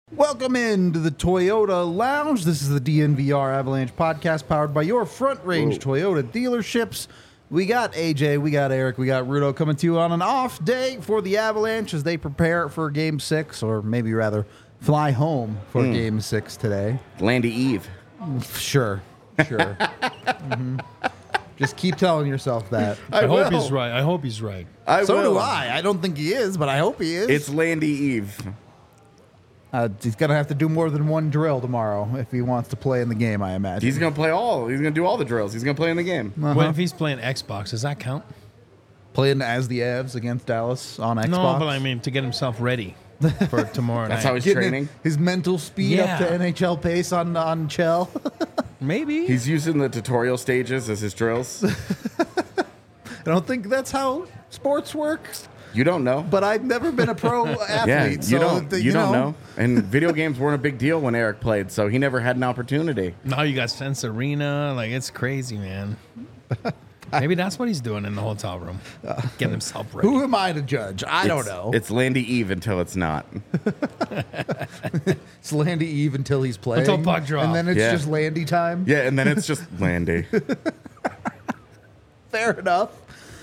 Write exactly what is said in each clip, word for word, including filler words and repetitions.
Welcome into the Toyota Lounge. This is the D N V R Avalanche podcast powered by your Front Range Whoa. Toyota dealerships. We got A J, we got Eric, we got Rudo coming to you on an off day for the Avalanche as they prepare for game six, or maybe rather fly home for mm. game six today. Landy Eve. Sure, sure. mm-hmm. Just keep telling yourself that. I, I hope he's right. I hope he's right. I so will. do I. I don't think he is, but I hope he is. It's Landy Eve. Uh, he's going to have to do more than one drill tomorrow if he wants to play in the game, I imagine. He's going to play all. He's going to do all the drills. He's going to play in the game. Uh-huh. What if he's playing Xbox? Does that count? Playing as the Avs against Dallas on Xbox? No, but I mean to get himself ready for tomorrow That's night. how he's Getting training? His mental speed Yeah. up to N H L pace on, on Chell. Maybe. He's using the tutorial stages as his drills. I don't think that's how sports works. You don't know. But I've never been a pro athlete. Yeah, you so don't. the, You, you don't know. know. And video games weren't a big deal when Eric played, so he never had an opportunity. Now you got Sense Arena. Like, it's crazy, man. Maybe that's what he's doing in the hotel room. Getting himself ready. Who am I to judge? I It's- don't know. It's Landy Eve until it's not. It's Landy Eve until he's playing. Until puck drop. And then it's Yeah. just Landy time. Yeah, and then it's just Landy. Fair enough.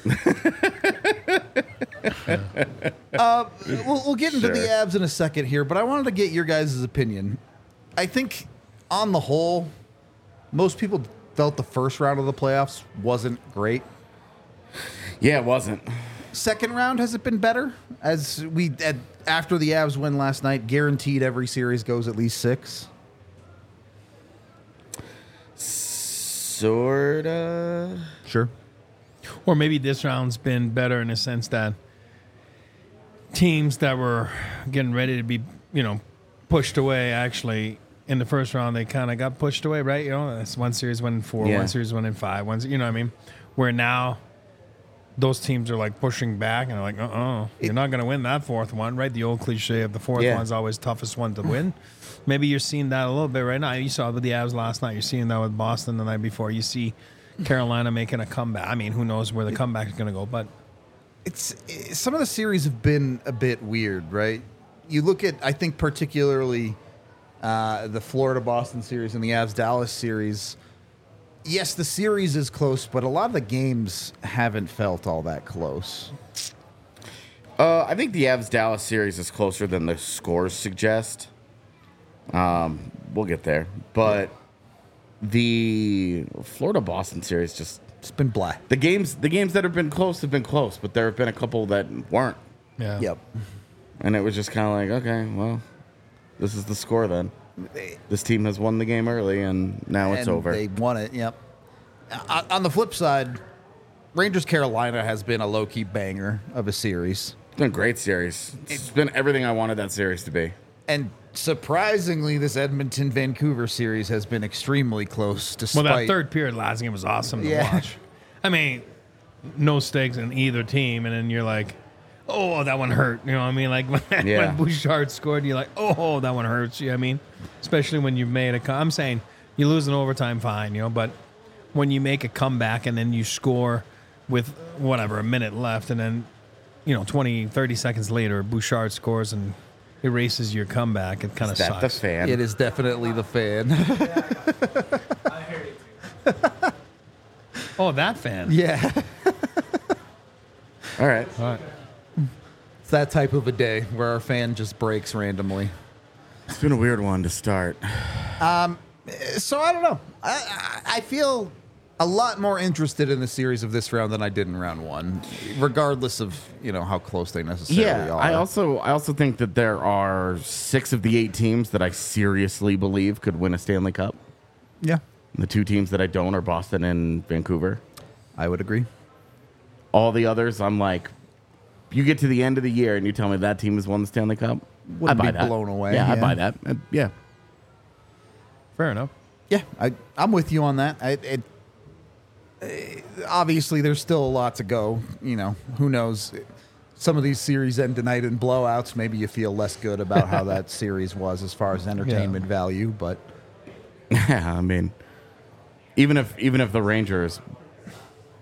uh, we'll, we'll get into Sure. the Avs in a second here, but I wanted to get your guys' opinion. I think, on the whole, most people felt the first round of the playoffs wasn't great. Yeah, it wasn't. Second round, has it been better? As we at, after the Avs win last night, guaranteed every series goes at least six. Sorta. Sure. Or maybe this round's been better in the sense that teams that were getting ready to be, you know, pushed away actually in the first round, they kind of got pushed away, right? You know, that's one series went in four, Yeah. one series went in five, one, you know what I mean? Where now those teams are like pushing back and they're like, uh-uh, you're not going to win that fourth one, right? The old cliche of the fourth Yeah. one's always toughest one to win. Maybe you're seeing that a little bit right now. You saw it with the Avs last night. You're seeing that with Boston the night before. You see Carolina making a comeback. I mean, who knows where the comeback is going to go, but It's, it's some of the series have been a bit weird, right? You look at, I think, particularly uh, the Florida-Boston series and the Avs-Dallas series. Yes, the series is close, but a lot of the games haven't felt all that close. Uh, I think the Avs-Dallas series is closer than the scores suggest. Um, we'll get there. But the Florida-Boston series just... It's been black. The games the games that have been close have been close, but there have been a couple that weren't. yeah. Yep. And it was just kind of like, okay, well, this is the score then. This team has won the game early, and now it's And over. They won it, yep. Uh, on the flip side, Rangers-Carolina has been a low-key banger of a series. It's been a great series. It's been everything I wanted that series to be. And surprisingly, this Edmonton-Vancouver series has been extremely close, despite... Well, that third period last game was awesome to Yeah. watch. I mean, no stakes in either team, and then you're like, oh, that one hurt. You know what I mean? Like when, Yeah. when Bouchard scored, you're like, oh, that one hurts. You know what I mean? Especially when you've made a co- I'm saying you lose in overtime, fine, you know, but when you make a comeback and then you score with whatever, a minute left, and then, you know, twenty, thirty seconds later, Bouchard scores and erases your comeback, it kind of Is that the sucks. fan? It is definitely the fan. Oh, that fan. Yeah. All right. All right. It's that type of a day where our fan just breaks randomly. It's been a weird one to start. So I don't know. I, I, I feel a lot more interested in the series of this round than I did in round one, regardless of, you know, how close they necessarily Yeah, are. I also I also think that there are six of the eight teams that I seriously believe could win a Stanley Cup. Yeah, The two teams that I don't are Boston and Vancouver. I would agree. All the others, I'm like, you get to the end of the year and you tell me that team has won the Stanley Cup. Wouldn't I buy be that. blown away, Yeah, I yeah. buy that. Uh, yeah. Fair enough. Yeah, I, I'm with you on that. I, it, eh, obviously, there's still a lot to go. You know, who knows? Some of these series end tonight in blowouts. Maybe you feel less good about how that series was as far as entertainment value. But Yeah, I mean, even if even if the Rangers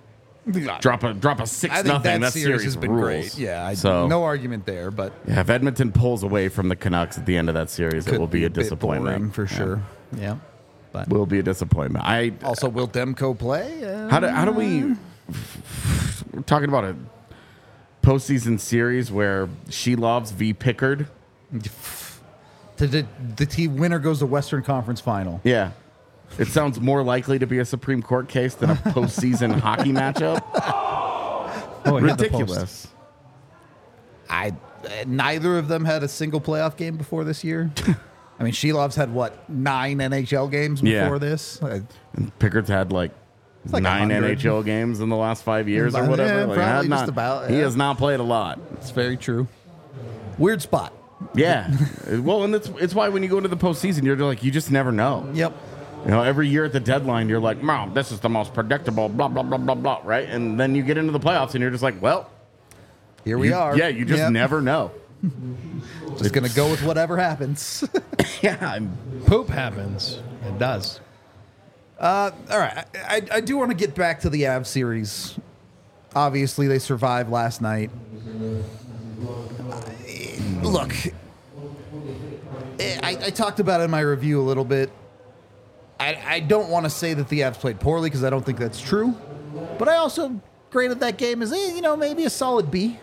drop a drop a six I think nothing. that, That series, series has been rules. great. Yeah, I, So- no argument there, but Yeah, if Edmonton pulls away from the Canucks at the end of that series, it could will be, a bit disappointment boring for Yeah. sure. Yeah, but Will be a disappointment. I also, will Demko play? Uh, how do how do we? We're talking about a postseason series where She Loves v Pickard. the, the, the team winner goes to Western Conference Final. Yeah, it sounds more likely to be a Supreme Court case than a postseason hockey matchup. Oh, he had the post. Ridiculous. I uh, neither of them had a single playoff game before this year. I mean, Shelov's had what nine N H L games before Yeah. this. Uh, And Pickard's had like, like nine a N hundred. H L games in the last five years or Yeah, whatever. Like, probably not- just about, He yeah. has not played a lot. It's very true. Weird spot. Yeah. Well, and it's it's why when you go into the postseason, you're like you just never know. Yep. You know, every year at the deadline, you're like, "Mom, this is the most predictable." Blah blah blah blah blah. Right, and then you get into the playoffs, and you're just like, "Well, Here we you- are. Yeah, you just Yep. never know. Just gonna go with whatever happens. Yeah, I'm, Poop happens. It does. All right, I, I, I do want to get back to the Avs series. Obviously, they survived last night. Look, I, I talked about it in my review a little bit. I, I don't want to say that the Avs played poorly because I don't think that's true. But I also graded that game as, eh, you know, maybe a solid B.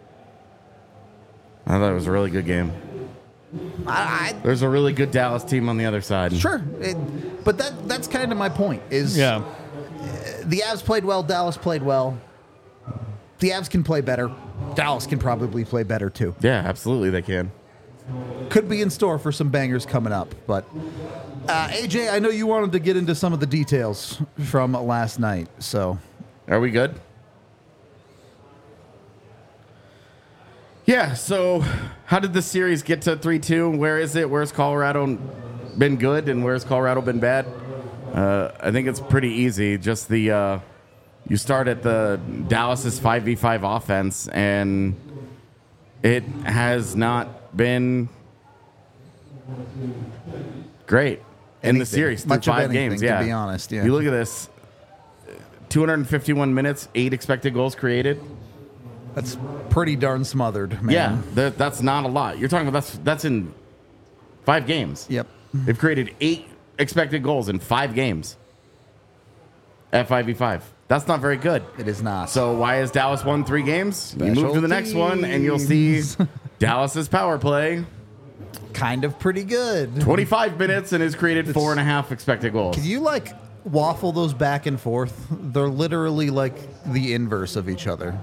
I thought it was a really good game. I, There's a really good Dallas team on the other side. I sure, it, but that that's kind of my point. Is Yeah. the Avs played well, Dallas played well. The Avs can play better. Dallas can probably play better too. Yeah, absolutely, they can. Could be in store for some bangers coming up. But uh, A J, I know you wanted to get into some of the details from last night. So Are we good? Yeah, so how did the series get to three two? Where is it? Where's Colorado been good and where's Colorado been bad? Uh, I think it's pretty easy. Just the uh, you start at the Dallas's five v five offense, and it has not been great in the Anything. series through Much of five anything, games. to Yeah, be honest, yeah. You look at this: two hundred fifty-one minutes, eight expected goals created. that's pretty darn smothered, man. Yeah, that, that's not a lot. You're talking about that's that's in five games. Yep. They've created eight expected goals in five games at five v five. That's not very good. It is not. So why has Dallas won three games? You Special move to the next one, and you'll see teams. Dallas's power play. kind of pretty good. twenty-five minutes and has created four and a half expected goals. Can you like waffle those back and forth? They're literally like the inverse of each other.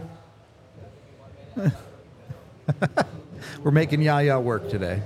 We're making Yaya work today.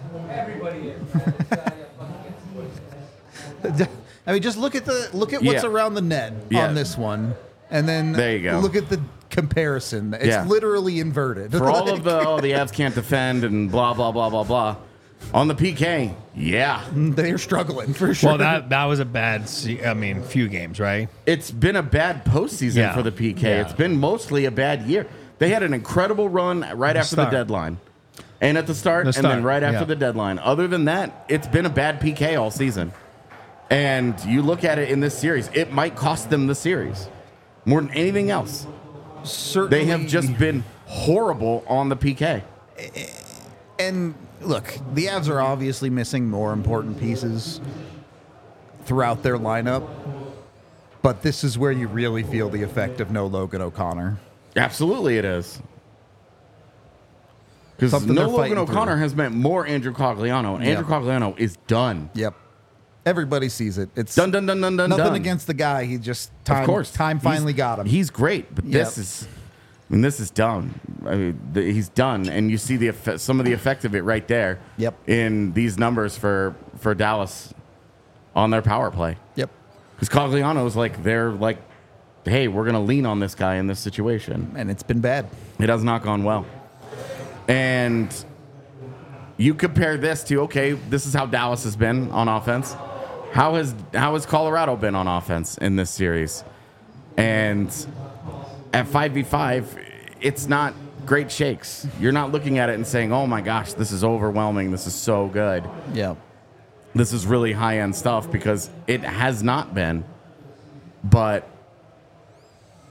I mean, just look at the look at what's Yeah. around the net Yeah. on this one, and then There you go. look at the comparison. It's Yeah. literally inverted. For all of the oh the Avs can't defend and blah blah blah blah blah. On the P K, yeah, they're struggling for sure. Well, that that was a bad. Se- I mean, few games, right? it's been a bad postseason Yeah. for the P K. Yeah. It's been mostly a bad year. They had an incredible run right after start. the deadline, and at the start, The and then start, right after yeah. the deadline. Other than that, it's been a bad P K all season. And you look at it in this series, it might cost them the series more than anything else. Certainly, They have just been horrible on the P K. And look, the Avs are obviously missing more important pieces throughout their lineup, but this is where you really feel the effect of no Logan O'Connor. Absolutely, it is. Because Something no they're Logan fighting O'Connor through. has meant more Andrew Cogliano, and Yeah. Andrew Cogliano is done. Yep. Everybody sees it. It's Done, done, done, done, done, nothing done. against the guy. He just time, Of course, time He's- finally got him. He's great, but this Yep. is, I mean, this is done. I mean, the, he's done, and you see the effect, some of the effect of it right there. Yep. In these numbers for for Dallas on their power play, Yep. because Cogliano's like they're like, hey, we're gonna lean on this guy in this situation. And it's been bad. It has not gone well, and you compare this to okay, this is how Dallas has been on offense. How has how has Colorado been on offense in this series? And at five v five, it's not great shakes. You're not looking at it and saying, "Oh my gosh, this is overwhelming. This is so good. Yeah. This is really high-end stuff," because it has not been. But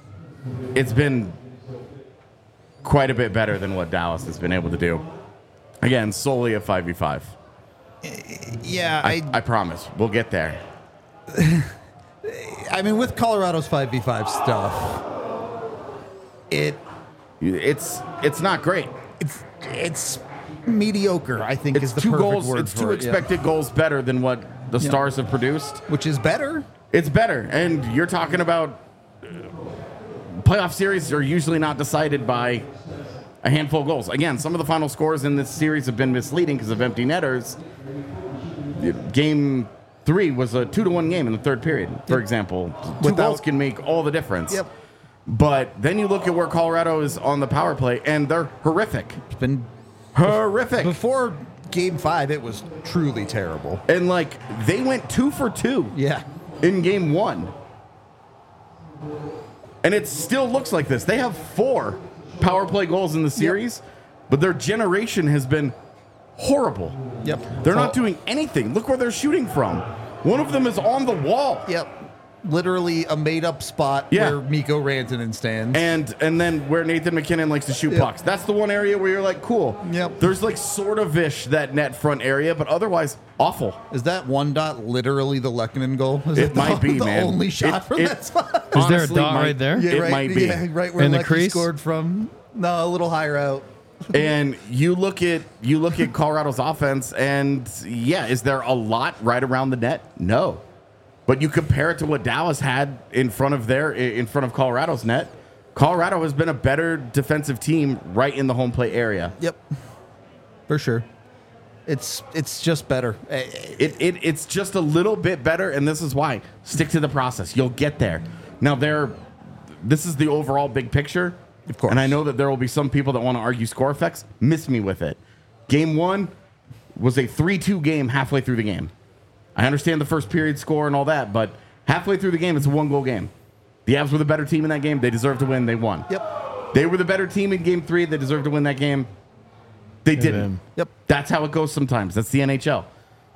it's been quite a bit better than what Dallas has been able to do. Again, solely a five v five. Yeah, I, I, I promise. We'll get there. I mean, with Colorado's five v five stuff, it It's it's not great. it's it's mediocre, I think, It's is the two perfect goals. word It's for two it, yeah. expected goals better than what the Stars have produced. Which is better. It's better, and you're talking about uh, playoff series are usually not decided by a handful of goals. Again, some of the final scores in this series have been misleading because of empty netters. Game three was a two to one game in the third period, for Yep. example. Two Without- goals can make all the difference. Yep. But then you look at where Colorado is on the power play, and they're horrific. It's been Horrific. before game five, it was truly terrible. And like they went two for two. Yeah. In game one. And it still looks like this. They have four power play goals in the series, but their generation has been horrible. Yep. They're Oh. not doing anything. Look where they're shooting from. One of them is on the wall. Yep. Literally a made-up spot Yeah. where Mikko Rantanen stands. And and then where Nathan McKinnon likes to shoot Yep. pucks. That's the one area where you're like, cool. Yep. There's like sort of ish that net front area, but otherwise awful. Is that one dot literally the Lehkonen goal? Is It the, might be, the man. only shot It- from it- that spot? Is there a Honestly, dot might- right there? Yeah, It right, might be. Yeah, right where In the Lecky crease? scored from. No, a little higher out. And you look at you look at Colorado's offense, and yeah, is there a lot right around the net? No, but you compare it to what Dallas had in front of their in front of Colorado's net. Colorado has been a better defensive team right in the home plate area. Yep. For sure. It's it's just better. Eh, eh, It, it it's just a little bit better, and this is why. Stick to the process. You'll get there. Now, there, this is the overall big picture. Of course. And I know that there will be some people that want to argue score effects. Miss me with it. Game one was a three two game halfway through the game. I understand the first period score and all that, but halfway through the game, it's a one-goal game. The Avs were the better team in that game. They deserved to win. They won. Yep. They were the better team in game three. They deserved to win that game. They didn't. then- Yep. That's how it goes sometimes. That's the N H L.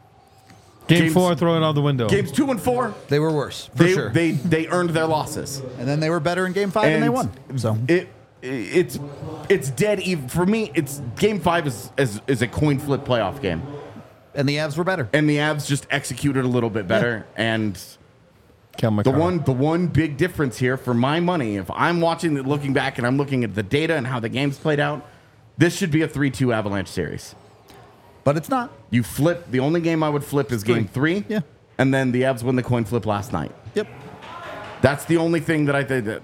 Game Games- four, throw it out the window. Games two and four, They were worse, for they, sure. they they earned their losses. and then they were better in game five and, they won. So it it's it's dead even for me. It's game five is, is is a coin flip playoff game, and the Avs were better. and the Avs just executed a little bit better. And Kel the McCarr. one the one big difference here for my money, if I'm watching the, looking back and I'm looking at the data and how the games played out, this should be a three two Avalanche series. But it's not. You flip. The only game I would flip is game three. Yeah. And then the Avs win the coin flip last night. Yep. That's the only thing that I think that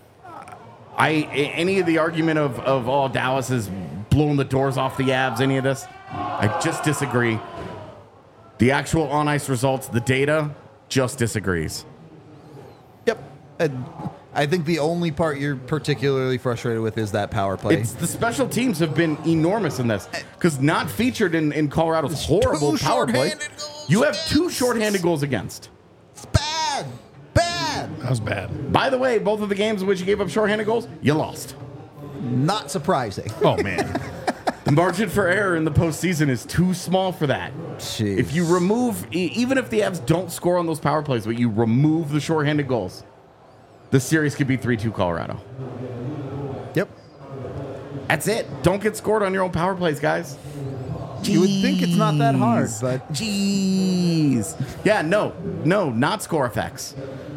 I any of the argument of of oh Dallas has blown the doors off the Avs, any of this, I just disagree. The actual on ice results, the data, just disagrees. Yep. And I think the only part you're particularly frustrated with is that power play. It's the special teams have been enormous in this because not featured in, in Colorado's horrible two power play. shorthanded goals You have two against. shorthanded goals against. It's bad. Bad. That was bad. By the way, both of the games in which you gave up shorthanded goals, you lost. Not surprising. Oh, man. The margin for error in the postseason is too small for that. Jeez. If you remove, e- even if the Avs don't score on those power plays, but you remove the shorthanded goals, the series could be three two Colorado. Yep. That's it. Don't get scored on your own power plays, guys. You would think it's not that hard, Jeez. but Jeez. Yeah, no, no, not score effects.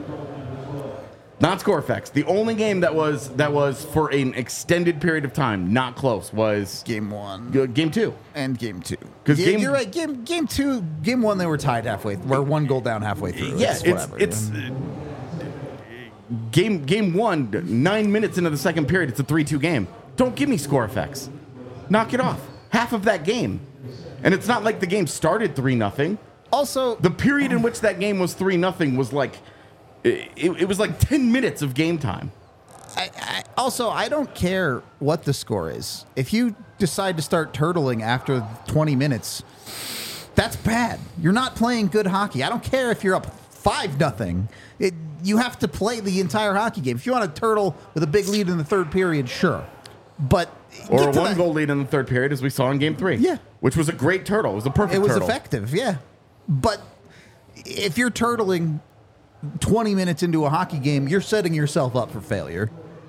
Not score effects. The only game that was that was for an extended period of time, not close, was game one uh, game two. and game two. 'Cause Yeah, game- you're right. Game game two, game one, they were tied halfway. We're one goal down halfway through. Yeah, it's it's whatever. it's uh, game game one, nine minutes into the second period. It's a three two game. Don't give me score effects. Knock it off. Half of that game, and it's not like the game started three nothing. also The period in which that game was three nothing was like it, it was like ten minutes of game time. I, I, also, I don't care what the score is. If you decide to start turtling after twenty minutes, that's bad. You're not playing good hockey. I don't care if you're up five nothing. It you have to play the entire hockey game. If you want to turtle with a big lead in the third period, sure, but Or get a to one that- goal lead in the third period, as we saw in game three. Yeah. Which was a great turtle. It was a perfect It was turtle. effective, yeah. But if you're turtling twenty minutes into a hockey game, you're setting yourself up for failure.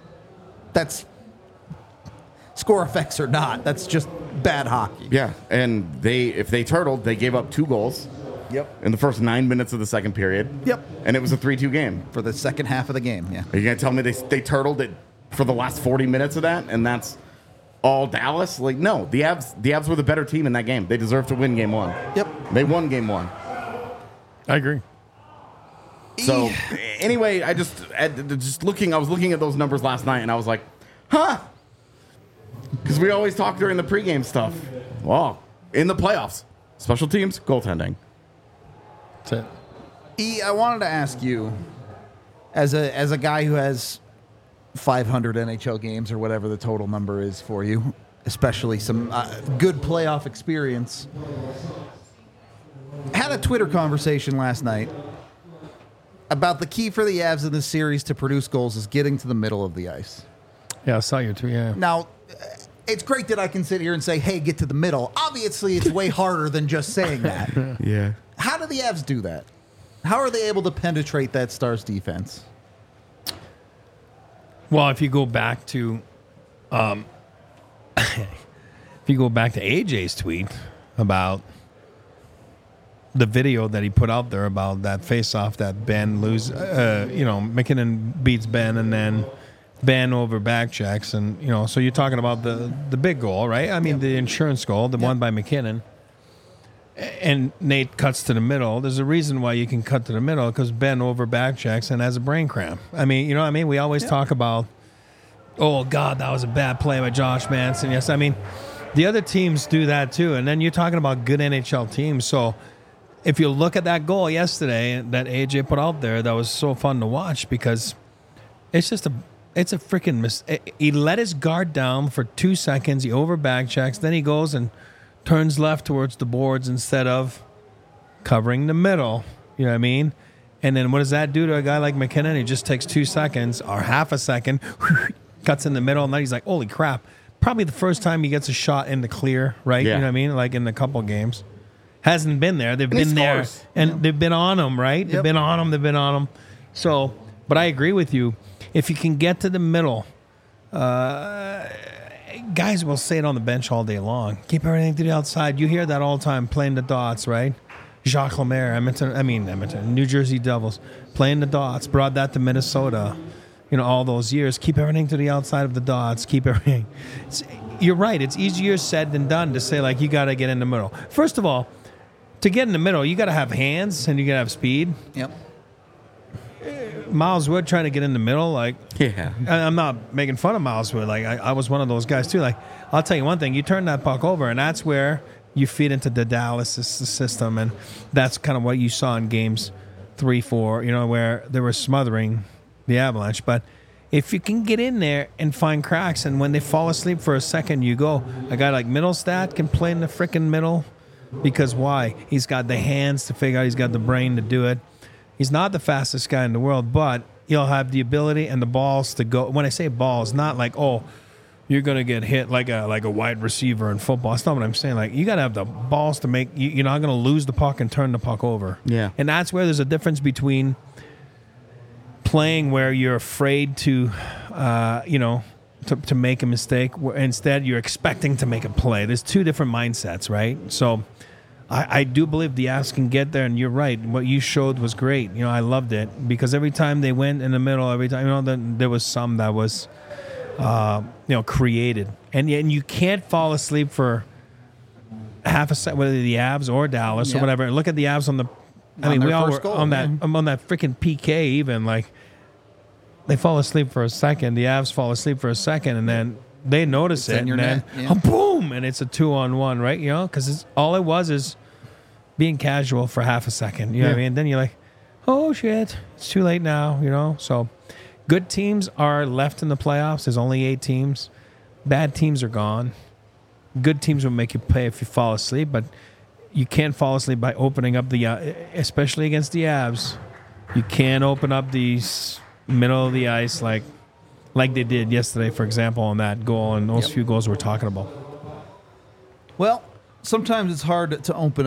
That's score effects or not. That's just bad hockey. Yeah, and they if they turtled, they gave up two goals. Yep. In the first nine minutes of the second period. Yep. And it was a three two game. For the second half of the game, yeah. Are you going to tell me they, they turtled it for the last forty minutes of that, and that's all Dallas? Like, no. The Avs, the Avs were the better team in that game. They deserved to win game one. Yep. They won game one. I agree. So, anyway, I just, just looking, I was looking at those numbers last night, and I was like, huh. Because we always talk during the pregame stuff. Well, in the playoffs, special teams, goaltending. That's it. E, I wanted to ask you, as a as a guy who has five hundred N H L games or whatever the total number is for you, especially some uh, good playoff experience, had a Twitter conversation last night about the key for the Avs in this series to produce goals is getting to the middle of the ice. Yeah, I saw you too. Yeah. Now, it's great that I can sit here and say, hey, get to the middle. Obviously, it's way harder than just saying that. Yeah. How do the Avs do that? How are they able to penetrate that Stars defense? Well, if you go back to, um, if you go back to A J's tweet about the video that he put out there about that face-off that Ben lose, uh, you know, McKinnon beats Ben and then Ben over back checks, and you know, so you're talking about the the big goal, right? I mean, yep. the insurance goal, the yep. one by McKinnon. And Nate cuts to the middle. There's a reason why you can cut to the middle, because Ben over back checks and has a brain cramp. I mean, you know what I mean? We always yeah. talk about, oh, God, that was a bad play by Josh Manson. Yes, I mean, the other teams do that too. And then you're talking about good N H L teams. So if you look at that goal yesterday that A J put out there, that was so fun to watch, because it's just a it's a freaking mistake. He let his guard down for two seconds. He over back checks. Then he goes and turns left towards the boards instead of covering the middle. You know what I mean? And then what does that do to a guy like McKinnon? He just takes two seconds or half a second, cuts in the middle, and then he's like, holy crap. Probably the first time he gets a shot in the clear, right? Yeah. You know what I mean? Like in a couple games. Hasn't been there. They've and been there. Scores. And yeah. they've been on him, right? Yep. They've been on him. They've been on him. So, but I agree with you. If you can get to the middle, uh, guys will say it on the bench all day long. Keep everything to the outside. You hear that all the time, playing the dots, right? Jacques Lemaire, Edmonton, I mean Edmonton, New Jersey Devils, playing the dots, brought that to Minnesota, you know, all those years. Keep everything to the outside of the dots. Keep everything. It's, you're right. It's easier said than done to say, like, you got to get in the middle. First of all, to get in the middle, you got to have hands and you got to have speed. Yep. Miles Wood trying to get in the middle, like, yeah, I'm not making fun of Miles Wood. Like, I, I was one of those guys too. Like, I'll tell you one thing: you turn that puck over, and that's where you feed into the Dallas system, and that's kind of what you saw in games three, four. You know, where they were smothering the Avalanche. But if you can get in there and find cracks, and when they fall asleep for a second, you go. A guy like Middlestat can play in the freaking middle, because why? He's got the hands to figure out. He's got the brain to do it. He's not the fastest guy in the world, but he'll have the ability and the balls to go. When I say balls, not like, oh, you're going to get hit like a like a wide receiver in football. That's not what I'm saying. Like, you got to have the balls to make, you, you're not going to lose the puck and turn the puck over. Yeah. And that's where there's a difference between playing where you're afraid to, uh, you know, to, to make a mistake. Where instead, you're expecting to make a play. There's two different mindsets, right? So I, I do believe the Avs can get there, and you're right. What you showed was great. You know, I loved it, because every time they went in the middle, every time, you know, then there was some that was, uh, you know, created, and and you can't fall asleep for half a second, whether the Avs or Dallas yeah. or whatever. Look at the Avs on the, I on mean, we all were goal, on that yeah. on that freaking P K. Even like they fall asleep for a second, the Avs fall asleep for a second, and then they notice it's it, and then yeah. oh, boom, and it's a two-on-one, right? You know, because all it was is being casual for half a second. You know yeah. what I mean? Then you're like, oh, shit, it's too late now, you know? So good teams are left in the playoffs. There's only eight teams. Bad teams are gone. Good teams will make you pay if you fall asleep, but you can't fall asleep by opening up the, uh, especially against the Avs. You can't open up the middle of the ice like like they did yesterday, for example, on that goal and those yep. few goals we're talking about. Well, sometimes it's hard to open up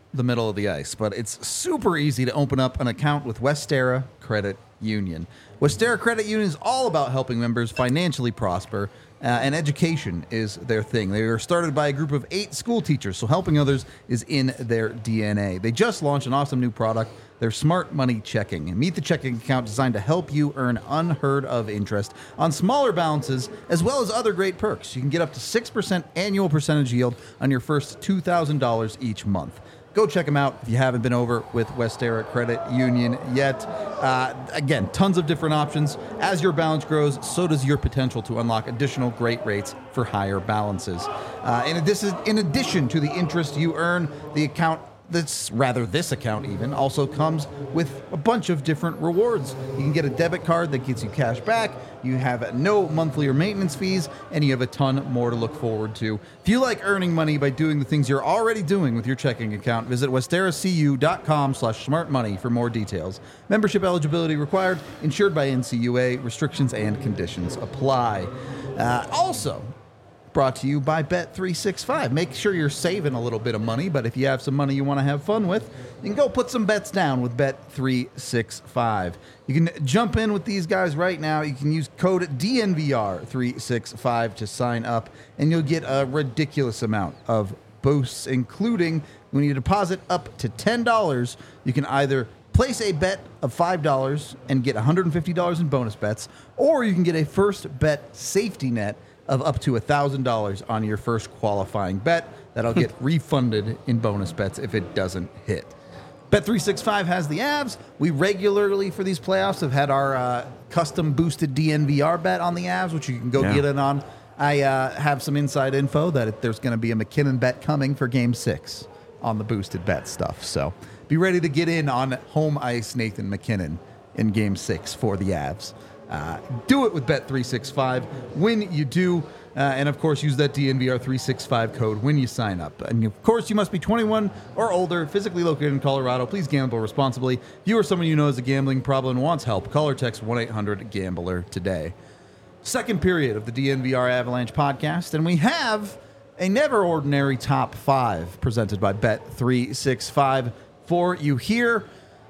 the middle of the ice, but it's super easy to open up an account with Westera Credit Union. Westera Credit Union is all about helping members financially prosper, uh, and education is their thing. They are started by a group of eight school teachers, so helping others is in their D N A. They just launched an awesome new product, their Smart Money Checking. Meet the checking account designed to help you earn unheard of interest on smaller balances, as well as other great perks. You can get up to six percent annual percentage yield on your first two thousand dollars each month. Go check them out if you haven't been over with Westera Credit Union yet. Uh, again, tons of different options. As your balance grows, so does your potential to unlock additional great rates for higher balances. Uh, and this is in addition to the interest you earn, the account That's rather this account even also comes with a bunch of different rewards. You can get a debit card that gets you cash back. You have no monthly or maintenance fees, and you have a ton more to look forward to. If you like earning money by doing the things you're already doing with your checking account, visit westeracu.com slash smartmoney for more details. Membership eligibility required, insured by N C U A. Restrictions and conditions apply. Uh, also, brought to you by Bet three sixty-five. Make sure you're saving a little bit of money, but if you have some money you want to have fun with, you can go put some bets down with Bet three sixty-five. You can jump in with these guys right now. You can use code D N V R three sixty-five to sign up, and you'll get a ridiculous amount of boosts, including when you deposit up to ten dollars, you can either place a bet of five dollars and get one hundred fifty dollars in bonus bets, or you can get a first bet safety net of up to one thousand dollars on your first qualifying bet. That'll get refunded in bonus bets if it doesn't hit. Bet three sixty-five has the Avs. We regularly, for these playoffs, have had our uh, custom boosted D N V R bet on the Avs, which you can go Yeah. get in on. I uh, have some inside info that it, there's going to be a McKinnon bet coming for Game six on the boosted bet stuff. So be ready to get in on home ice Nathan McKinnon in Game six for the Avs. Uh, do it with Bet three sixty-five when you do. Uh, and, of course, use that D N V R three sixty-five code when you sign up. And, of course, you must be twenty-one or older, physically located in Colorado. Please gamble responsibly. If you or someone you know has a gambling problem and wants help, call or text one eight hundred gambler today. Second period of the D N V R Avalanche podcast, and we have a never ordinary top five presented by Bet three sixty-five for you here.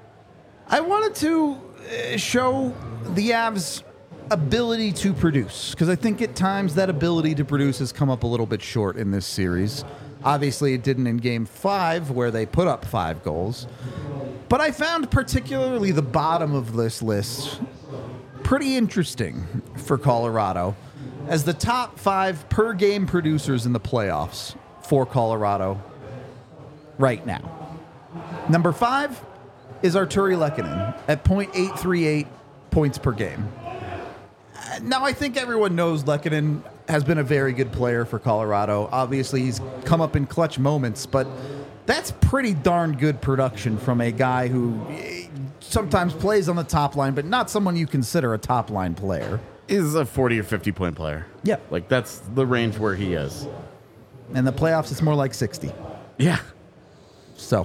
I wanted to uh, show the Avs' ability to produce, because I think at times that ability to produce has come up a little bit short in this series. Obviously, it didn't in Game five, where they put up five goals. But I found particularly the bottom of this list pretty interesting for Colorado, as the top five per game producers in the playoffs for Colorado right now. Number five is Artturi Lehkonen at point eight three eight points per game. Now, I think everyone knows Lehkonen has been a very good player for Colorado. Obviously, he's come up in clutch moments, but that's pretty darn good production from a guy who sometimes plays on the top line, but not someone you consider a top line player. Is a forty or fifty point player. Yep. Like, that's the range where he is. In the playoffs, it's more like sixty. Yeah. So,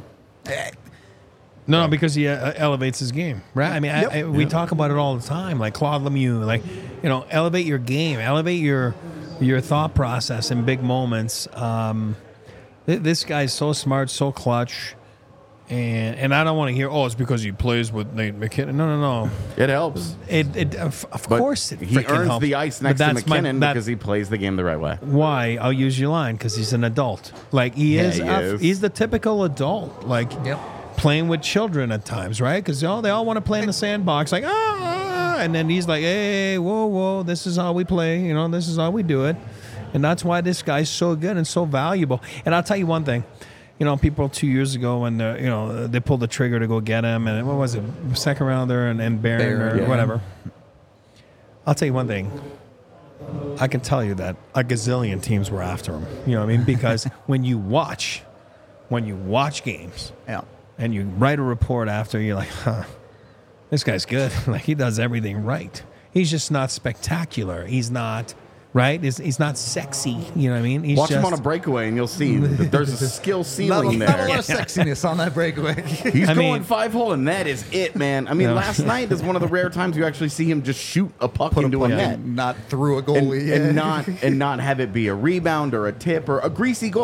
No, no, because he uh, elevates his game, right? I mean, Yep. I, I, we talk about it all the time, like Claude Lemieux, like, you know, elevate your game, elevate your your thought process in big moments. Um, th- this guy's so smart, so clutch, and and I don't want to hear, oh, it's because he plays with Nate McKinnon. No, no, no. It helps. It, it of, of But course it he freaking earns helps. the ice But next to that's my- McKinnon that- because he plays the game the right way. Why? I'll use your line, because he's an adult. Like, he Yeah, is. he a- is. He's the typical adult. Like, Yep. playing with children at times, right? Because oh, they all want to play in the sandbox, like, ah, ah, and then he's like, hey, whoa, whoa, this is how we play. You know, this is how we do it. And that's why this guy's so good and so valuable. And I'll tell you one thing. You know, people two years ago when, uh, you know, they pulled the trigger to go get him, and what was it, second rounder and, and Barron Barron, or yeah. whatever. I'll tell you one thing. I can tell you that a gazillion teams were after him. You know what I mean? Because when you watch, when you watch games, yeah. and you write a report after, you're like, huh, this guy's good. Like, he does everything right. He's just not spectacular. He's not, right? He's, he's not sexy. You know what I mean? He's Watch just, him on a breakaway, and you'll see that there's a skill Not, ceiling not a there. lot of sexiness on that breakaway. He's I going mean- five hole, and that is it, man. I mean, Yeah. last night is one of the rare times you actually see him just shoot a puck into a net. Not through a And, goalie. yeah. and not and not have it be a rebound or a tip or a greasy goal.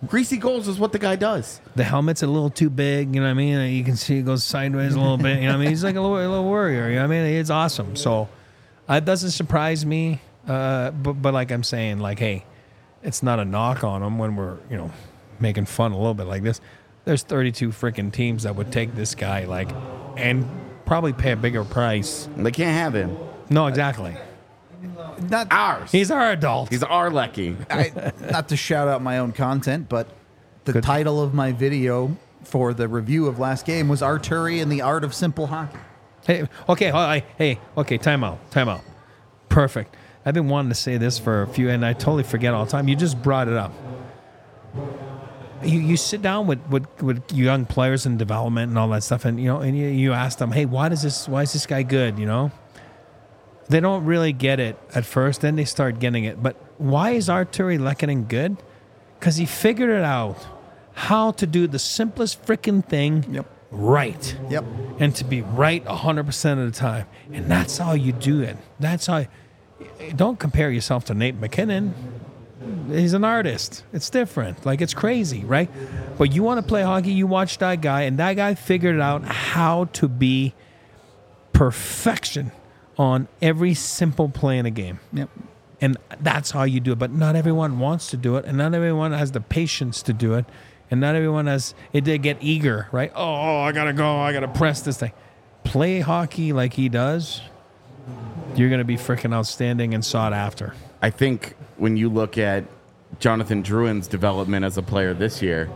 Greasy goals is what the guy does. The helmet's a little too big, you know what I mean? You can see it goes sideways a little bit, you know what I mean? He's like a little, a little warrior, you know what I mean? It's awesome. So uh, it doesn't surprise me, uh, but, but like I'm saying, like, hey, it's not a knock on him when we're, you know, making fun a little bit like this. There's thirty-two freaking teams that would take this guy, like, and probably pay a bigger price. They can't have him. No, exactly. Not Ours. He's our adult. He's our Lecky. I, not to shout out my own content, but the Good. title of my video for the review of last game was Arturi and the Art of Simple Hockey. Hey, okay, hold on, hey, okay, time out, time out. Perfect. I've been wanting to say this for a few, and I totally forget all the time. You just brought it up. You you sit down with, with, with young players in development and all that stuff, and you know, and you, you ask them, hey, why does this? Why is this guy good? You know, they don't really get it at first. Then they start getting it. But why is Arturi Lehkonen good? Because he figured it out how to do the simplest freaking thing Yep. right. Yep. And to be right one hundred percent of the time. And that's how you do it. That's how. Don't compare yourself to Nate McKinnon. He's an artist. It's different. Like, it's crazy, right? But you want to play hockey, you watch that guy, and that guy figured out how to be perfection on every simple play in a game. Yep. And that's how you do it. But not everyone wants to do it, and not everyone has the patience to do it, and not everyone has it. They get eager, right? Oh, oh, I gotta go. I gotta press this thing. Play hockey like he does. You're gonna be freaking outstanding and sought after. I think when you look at Jonathan Drouin's development as a player this year,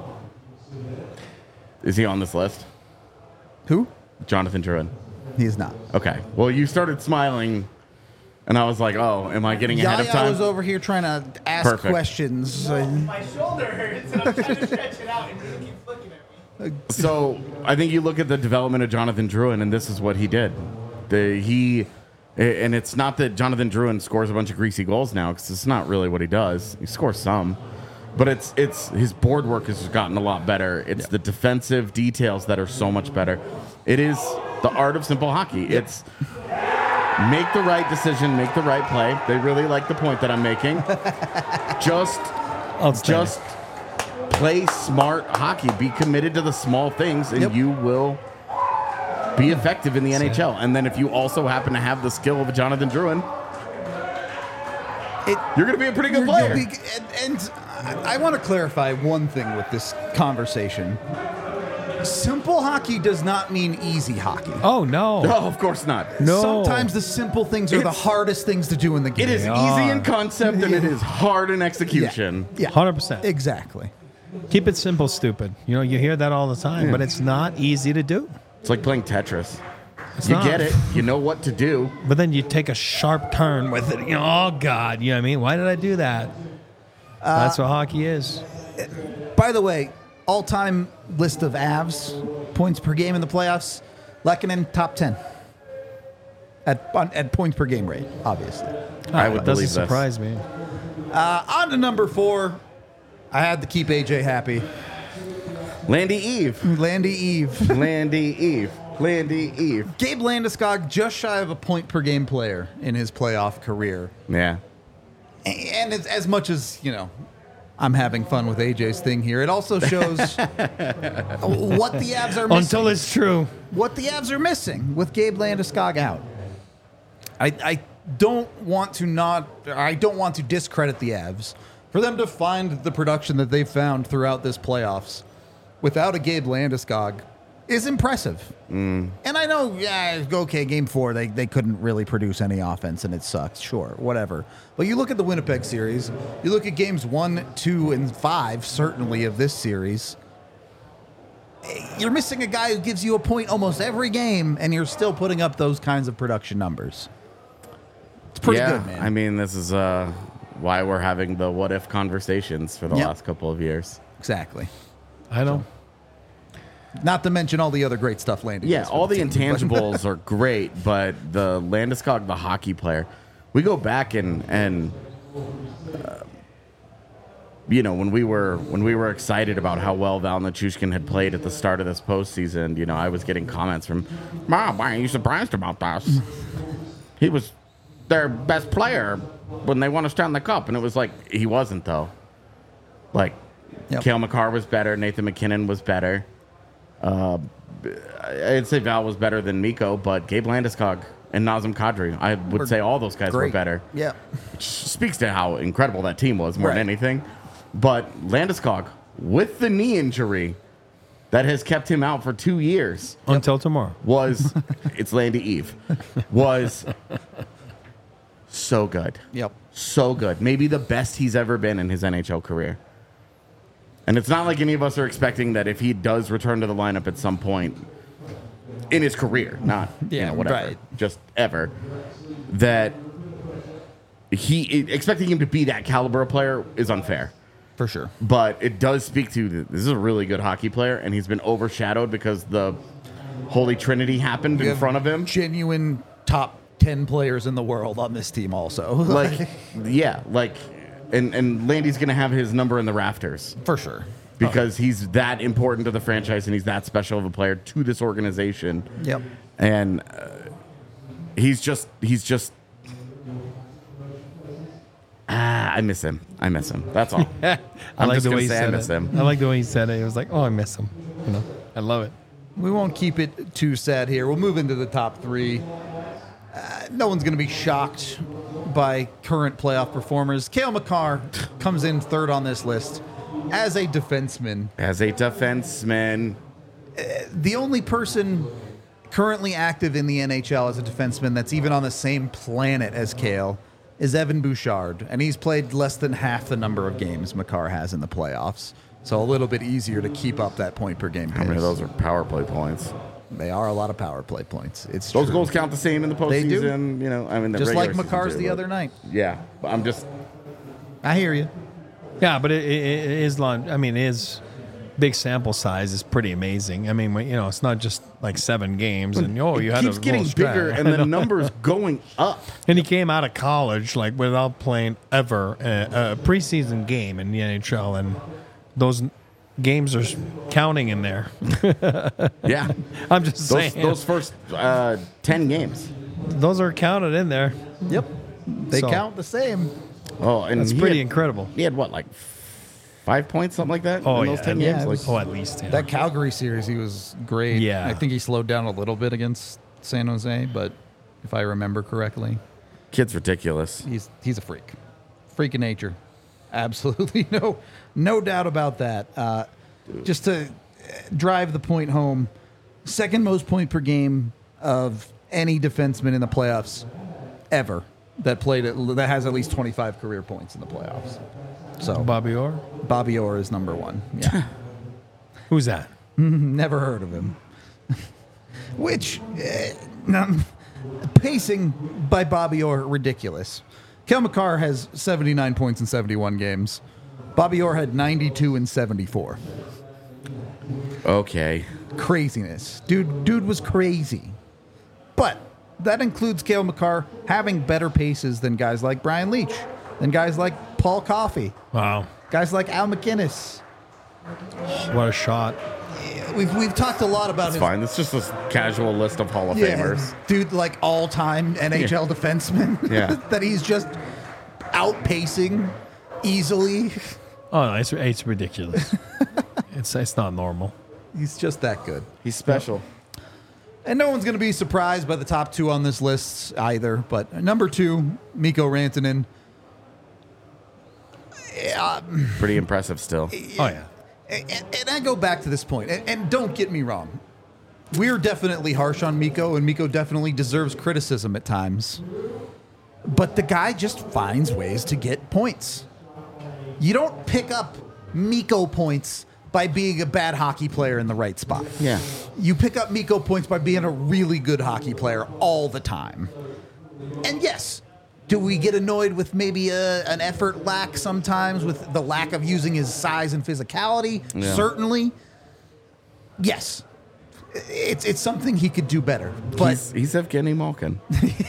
is he on this list? Who? Jonathan Drouin. He is not. Okay. Well, you started smiling, and I was like, "Oh, am I getting ahead of Yaya time?" was over here trying to ask Perfect. questions. My shoulder hurts and I'm trying to stretch it out and you keep looking at me. So I think you look at the development of Jonathan Drouin, and this is what he did. The he, and it's not that Jonathan Drouin scores a bunch of greasy goals now, because it's not really what he does. He scores some, but it's it's his board work has gotten a lot better. It's the defensive details that are so much better. It is the art of simple hockey. It's make the right decision, make the right play. They really like the point that I'm making. Just, Outstanding. just play smart hockey. Be committed to the small things, and Yep. you will be effective in the N H L. And then if you also happen to have the skill of a Jonathan Drouin, It, you're going to be a pretty good You're player. guilty- And, and I, I want to clarify one thing with this conversation. Simple hockey does not mean easy hockey. Oh no. No, of course not. No. Sometimes the simple things are the It's- hardest things to do in the game. It is They easy in are. concept, and it is hard in execution. Yeah. one hundred percent. Exactly. Keep it simple, stupid. You know, you hear that all the time, but it's not easy to do. It's like playing Tetris. It's You not. get it. You know what to do. But then you take a sharp turn with it. You know, oh God, you know what I mean? Why did I do that? That's what hockey is. By the way, all-time list of Avs points per game in the playoffs. Lehkonen top ten at on, at points per game rate. Obviously. I would It doesn't believe this. surprise me. Uh, on to number four. I had to keep A J happy. Landy Eve. Landy Eve. Landy Eve. Landy Eve. Gabe Landeskog just shy of a point per game player in his playoff career. Yeah. And it's, as much as, you know, I'm having fun with A J's thing here, it also shows what the Avs are missing. Until it's true. what the Avs are missing with Gabe Landeskog out. I, I don't want to not, I don't want to discredit the Avs for them to find the production that they've found throughout this playoffs without a Gabe Landeskog is impressive. Mm. And I know, yeah, okay, game four, they, they couldn't really produce any offense and it sucks. Sure, whatever. But you look at the Winnipeg series, you look at games one, two, and five, certainly of this series. You're missing a guy who gives you a point almost every game, and you're still putting up those kinds of production numbers. It's pretty yeah, good, man. I mean, this is uh, why we're having the what if conversations for the Yep. last couple of years. exactly. I know. Not to mention all the other great stuff Landy Yeah, does for all the team, but- intangibles are great, but the Landeskog, the hockey player, we go back and and uh, you know when we were when we were excited about how well Val Nichushkin had played at the start of this postseason, you know, I was getting comments from, "Mom, why are you surprised about this? He was their best player when they won a Stanley Cup," and it was like he wasn't though. Like Yep. Cale Makar was better. Nathan McKinnon was better. Uh, I'd say Val was better than Miko, but Gabe Landeskog and Nazem Kadri, I would Were say all those guys great. were better. Yeah. Which speaks to how incredible that team was more Right. than anything. But Landeskog, with the knee injury that has kept him out for two years, Until tomorrow. was it's Landy Eve was so good. Yep. So good. Maybe the best he's ever been in his N H L career. And it's not like any of us are expecting that if he does return to the lineup at some point in his career, not you Yeah, know, whatever, right. just ever, that he expecting him to be that caliber of player is unfair. For sure. But it does speak to that this is a really good hockey player, and he's been overshadowed because the Holy Trinity happened You in have front of him. Genuine top ten players in the world on this team also. Like, yeah, like, and and Landy's gonna have his number in the rafters For sure. because he's that important to the franchise and he's that special of a player to this organization. Yep. And uh, he's just he's just. Ah, I miss him. I miss him. That's all. I I'm like just the gonna way he say I said miss it. him. I like the way he said it. It was like, oh, I miss him. You know, I love it. We won't keep it too sad here. We'll move into the top three. Uh, no one's going to be shocked by current playoff performers. Cale Makar comes in third on this list as a defenseman. As a defenseman, The only person currently active in the N H L as a defenseman that's even on the same planet as Cale is Evan Bouchard, and he's played less than half the number of games Makar has in the playoffs. So a little bit easier to keep up that point per game pace. how many of those are power play points? They are a lot of power play points. It's Those true. goals count the same in the postseason. They do. You know, I mean, the Just like regular season Makar's too, the but- other night. Yeah, but I'm just I hear you. Yeah, but it, it, it is long. I mean, his big sample size is pretty amazing. I mean, when- you know, it's not just like seven games and oh, you it had keeps a getting little stretch. bigger and the numbers going up. And he came out of college like without playing ever a, a preseason game in the N H L, and those games are counting in there. Yeah, I'm just those saying those first uh, ten games. those are counted in there. Yep. They So- count the same. Oh, and That's he pretty had, incredible. He had what, like five points, something like that. Oh in yeah, those ten yeah, games. it Like, was- oh at least. Yeah. That Calgary series, he was great. Yeah. I think he slowed down a little bit against San Jose, but if I remember correctly, kid's ridiculous. he's he's a freak. Freak of nature. Absolutely no no doubt about that. Uh, just to drive the point home, second most point per game of any defenseman in the playoffs ever that played at, that has at least twenty-five career points in the playoffs. So Bobby Orr. Bobby Orr is number one. Yeah. Who's that? Never heard of him. Which, eh, num- pacing by Bobby Orr, ridiculous. Cale Makar has seventy-nine points in seventy-one games. Bobby Orr had ninety-two in seventy-four. Okay, Craziness. Dude, dude was crazy. But that includes Cale Makar having better paces than guys like Brian Leach, than guys like Paul Coffey, Wow, guys like Al McInnes. what a shot! We've, we've talked a lot about it's his fine. It's just a casual list of Hall of Yeah, Famers. dude, like all-time N H L defenseman. Yeah. that he's just outpacing easily. Oh no, it's it's ridiculous. it's it's not normal. He's just that good. He's special. And no one's going to be surprised by the top two on this list either. But number two, Mikko Rantanen. Pretty impressive still. Oh yeah. And, and I go back to this point, and, and don't get me wrong. We're definitely harsh on Mikko, and Mikko definitely deserves criticism at times. But the guy just finds ways to get points. You don't pick up Mikko points by being a bad hockey player in the right spot. Yeah. You pick up Mikko points by being a really good hockey player all the time. And yes, do we get annoyed with maybe a, an effort lack sometimes with the lack of using his size and physicality? Yeah. Certainly. Yes. It's it's something he could do better. But he's, he's Evgeny Malkin.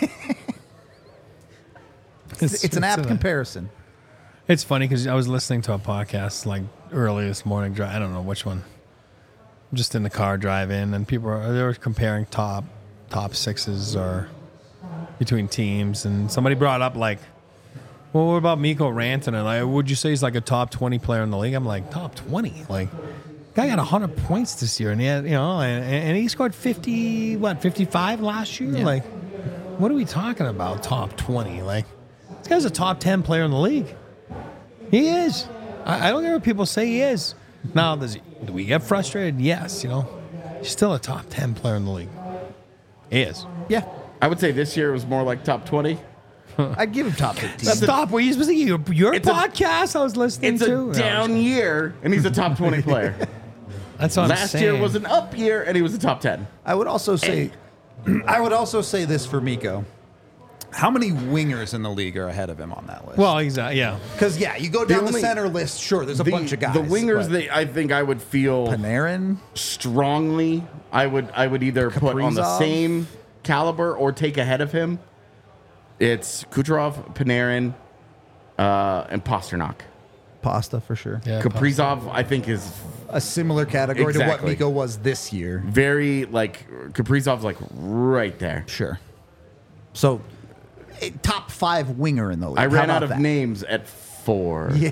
it's, it's an apt comparison. It's funny because I was listening to a podcast like early this morning. dri- I don't know which one. Just in the car driving, and people are they were comparing top top sixes or between teams, and somebody brought up like Well, what about Mikko Rantanen? Like, would you say he's like a top twenty player in the league? I'm like, top twenty? Like, guy got one hundred points this year, and he had, you know, and, and he scored fifty, what, fifty-five last year? Yeah. Like, what are we talking about, top twenty? Like, this guy's a top ten player in the league. He is. I, I don't care what people say he is. Now, does he, do we get frustrated? Yes, you know. He's still a top ten player in the league. He is. Yeah. I would say this year was more like top twenty. I'd give him top fifteen. Stop. Were you supposed to your, your It's a- podcast I was listening It's to? a down year, and he's a top twenty player. That's what I'm Last saying. year was an up year, and he was a top ten. I would also say, I would also say this for Mikko. How many wingers in the league are ahead of him on that list? Well, exactly. Yeah. because yeah, you go down the, only- center list. Sure, there's a The- bunch of guys. The wingers but that I think I would feel Panarin, strongly, I would I would either put on the Kaprizov. same caliber or take ahead of him. It's Kucherov, Panarin, uh, and Pasternak. Pasta for sure. Yeah. Kaprizov, I think, is A similar category to what Exactly. Mikko was this year. very like Kaprizov's like right there. Sure. So, eh, top five winger in the league. I How ran about out of that? names at four. Yeah.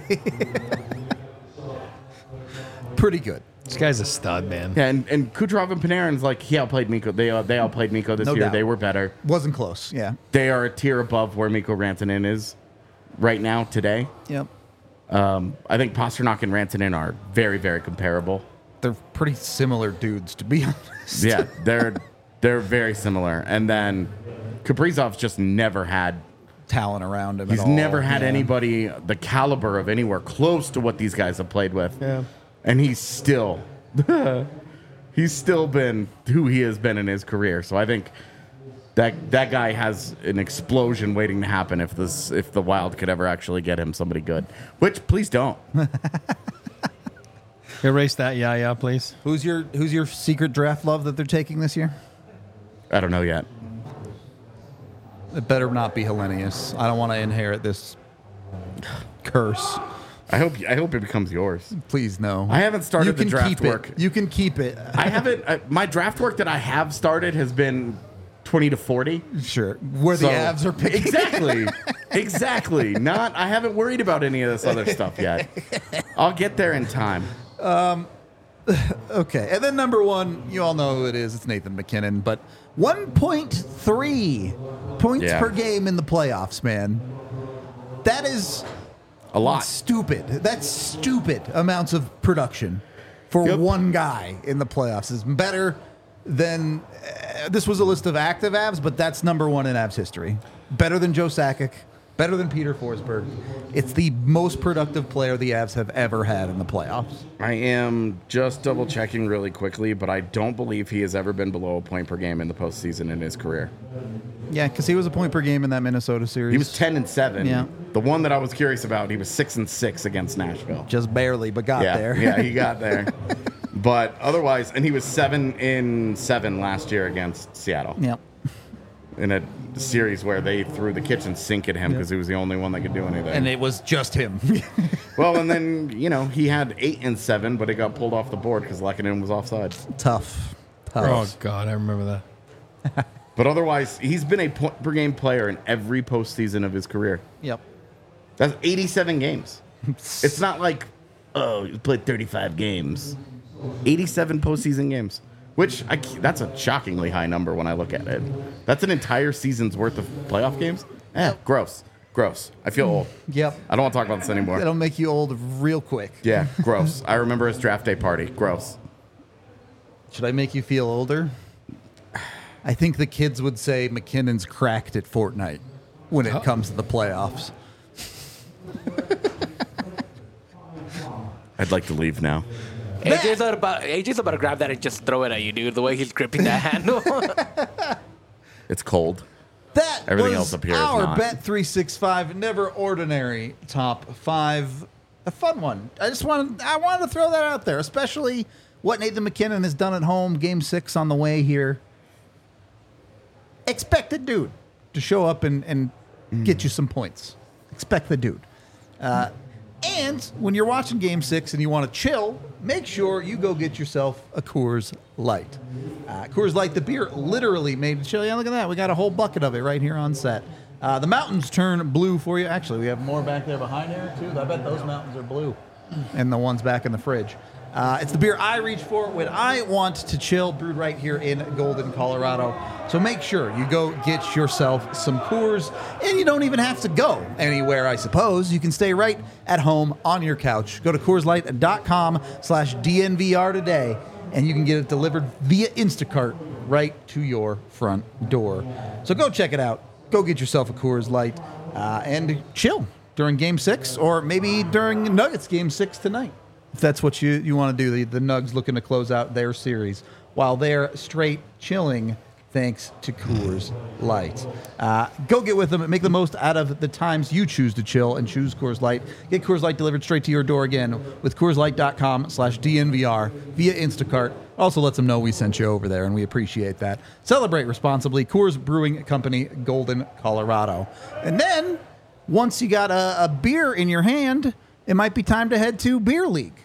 Pretty good. This guy's a stud, man. Yeah, and, and Kucherov and Panarin's like he outplayed Mikko. They uh, they outplayed Mikko this No year. doubt. They were better. Wasn't close. Yeah. They are a tier above where Mikko Rantanen is right now today. Yep. Um, I think Pasternak and Rantanen are very very comparable. They're pretty similar dudes, to be honest. Yeah, they're they're very similar. And then Kaprizov's just never had. Talent around him. He's at all. never had Yeah. anybody the caliber of anywhere close to what these guys have played with. Yeah. And he's still he's still been who he has been in his career. So I think that that guy has an explosion waiting to happen if this if the Wild could ever actually get him somebody good. Which please don't. Erase that, yeah, yeah, please. Who's your Who's your secret draft love that they're taking this year? I don't know yet. It better not be Hellenius. I don't want to inherit this curse. I hope I hope it becomes yours. Please no. I haven't started you the can draft keep work. It. You can keep it. I haven't I, my draft work that I have started has been twenty to forty. Sure. Where the So- Avs are picking. Exactly. Exactly. Not I haven't worried about any of this other stuff yet. I'll get there in time. Okay. And then number one, you all know who it is. It's Nathan McKinnon. But one point three points Yeah. per game in the playoffs, man. That is A lot. stupid. That's stupid amounts of production for Yep. one guy in the playoffs. Is better than uh, this was a list of active Avs, but that's number one in Avs history. Better than Joe Sakic. Better than Peter Forsberg. It's the most productive player the Avs have ever had in the playoffs. I am just double checking really quickly, but I don't believe he has ever been below a point per game in the postseason in his career. Yeah, because he was a point per game in that Minnesota series. He was ten and seven. Yeah. The one that I was curious about, he was six and six against Nashville. just barely, but got yeah, there. yeah, he got there. But otherwise, and he was seven in seven last year against Seattle Yep. in a series where they threw the kitchen sink at him because he was the only one that could do anything. And it was just him. well, and then you know he had eight and seven, but it got pulled off the board because Lehkonen was offside. Tough. Oh, Tough. God, I remember that. But otherwise, he's been a point per game player in every postseason of his career. Yep. That's eighty-seven games. It's not like, oh, you played thirty-five games. eighty-seven postseason games, which I, that's a shockingly high number when I look at it. That's an entire season's worth of playoff games. Eh, gross. Gross. I feel old. Yep. I don't want to talk about this anymore. That'll make you old real quick. Yeah, gross. I remember his draft day party. Gross. Should I make you feel older? I think the kids would say McKinnon's cracked at Fortnite when it comes to the playoffs. I'd like to leave now. A J's about A J's about to grab that and just throw it at you, dude. The way he's gripping that handle. It's cold. That Everything was else up here is our not. Bet three sixty-five Never Ordinary top five. A fun one. I just wanted I wanted to throw that out there, especially what Nathan McKinnon has done at home. Game six on the way here. Expect the dude to show up and, and get you some points. Expect the dude. Uh, and when you're watching Game Six and you want to chill, make sure you go get yourself a Coors Light. Uh, Coors Light, the beer, literally made chill. Yeah, look at that. We got a whole bucket of it right here on set. Uh, the mountains turn blue for you. Actually, we have more back there behind Eric, too. I bet those mountains are blue. And the ones back in the fridge. Uh, it's the beer I reach for when I want to chill, brewed right here in Golden, Colorado. So make sure you go get yourself some Coors, and you don't even have to go anywhere, I suppose. You can stay right at home on your couch. Go to CoorsLight.com slash DNVR today, and you can get it delivered via Instacart right to your front door. So go check it out. Go get yourself a Coors Light uh, and chill during Game six, or maybe during Nuggets Game six tonight. If that's what you, you want to do, the, the Nugs looking to close out their series while they're straight chilling thanks to Coors Light. Uh, go get with them. Make the most out of the times you choose to chill and choose Coors Light. Get Coors Light delivered straight to your door again with CoorsLight.com slash DNVR via Instacart. Also lets them know we sent you over there, and we appreciate that. Celebrate responsibly. Coors Brewing Company, Golden, Colorado. And then, once you got a, a beer in your hand, it might be time to head to Beer League.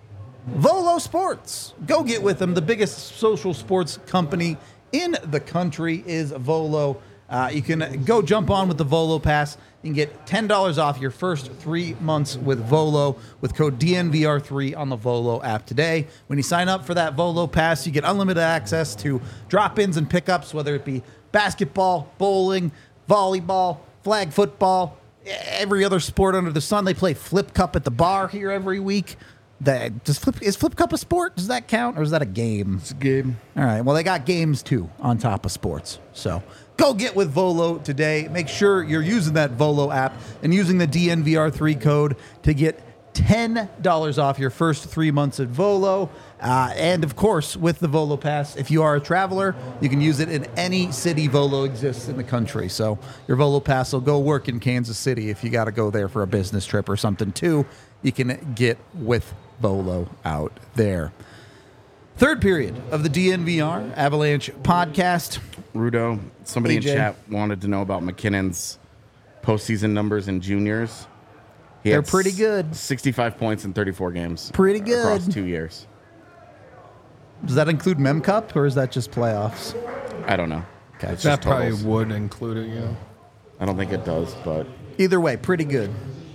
Volo Sports. Go get with them. The biggest social sports company in the country is Volo. Uh, you can go jump on with the Volo Pass. You can get ten dollars off your first three months with Volo with code D N V R three on the Volo app today. When you sign up for that Volo Pass, you get unlimited access to drop-ins and pickups, whether it be basketball, bowling, volleyball, flag football, every other sport under the sun. They play Flip Cup at the bar here every week. That does flip is Flip Cup a sport? Does that count, or is that a game? It's a game. All right. Well, they got games too on top of sports. So go get with Volo today. Make sure you're using that Volo app and using the D N V R three code to get ten dollars off your first three months at Volo. Uh, and of course, with the Volo Pass, if you are a traveler, you can use it in any city Volo exists in the country. So your Volo Pass will go work in Kansas City if you got to go there for a business trip or something too. You can get with Volo out there. Third period of the D N V R Avalanche podcast. Rudo, somebody A J. in chat wanted to know about McKinnon's postseason numbers in juniors. He They're had pretty good. sixty-five points in thirty-four games. Pretty good. Across two years. Does that include Mem Cup, or is that just playoffs? I don't know. Okay. It's That just probably totals. would include it, yeah. I don't think it does, but Either way, pretty good.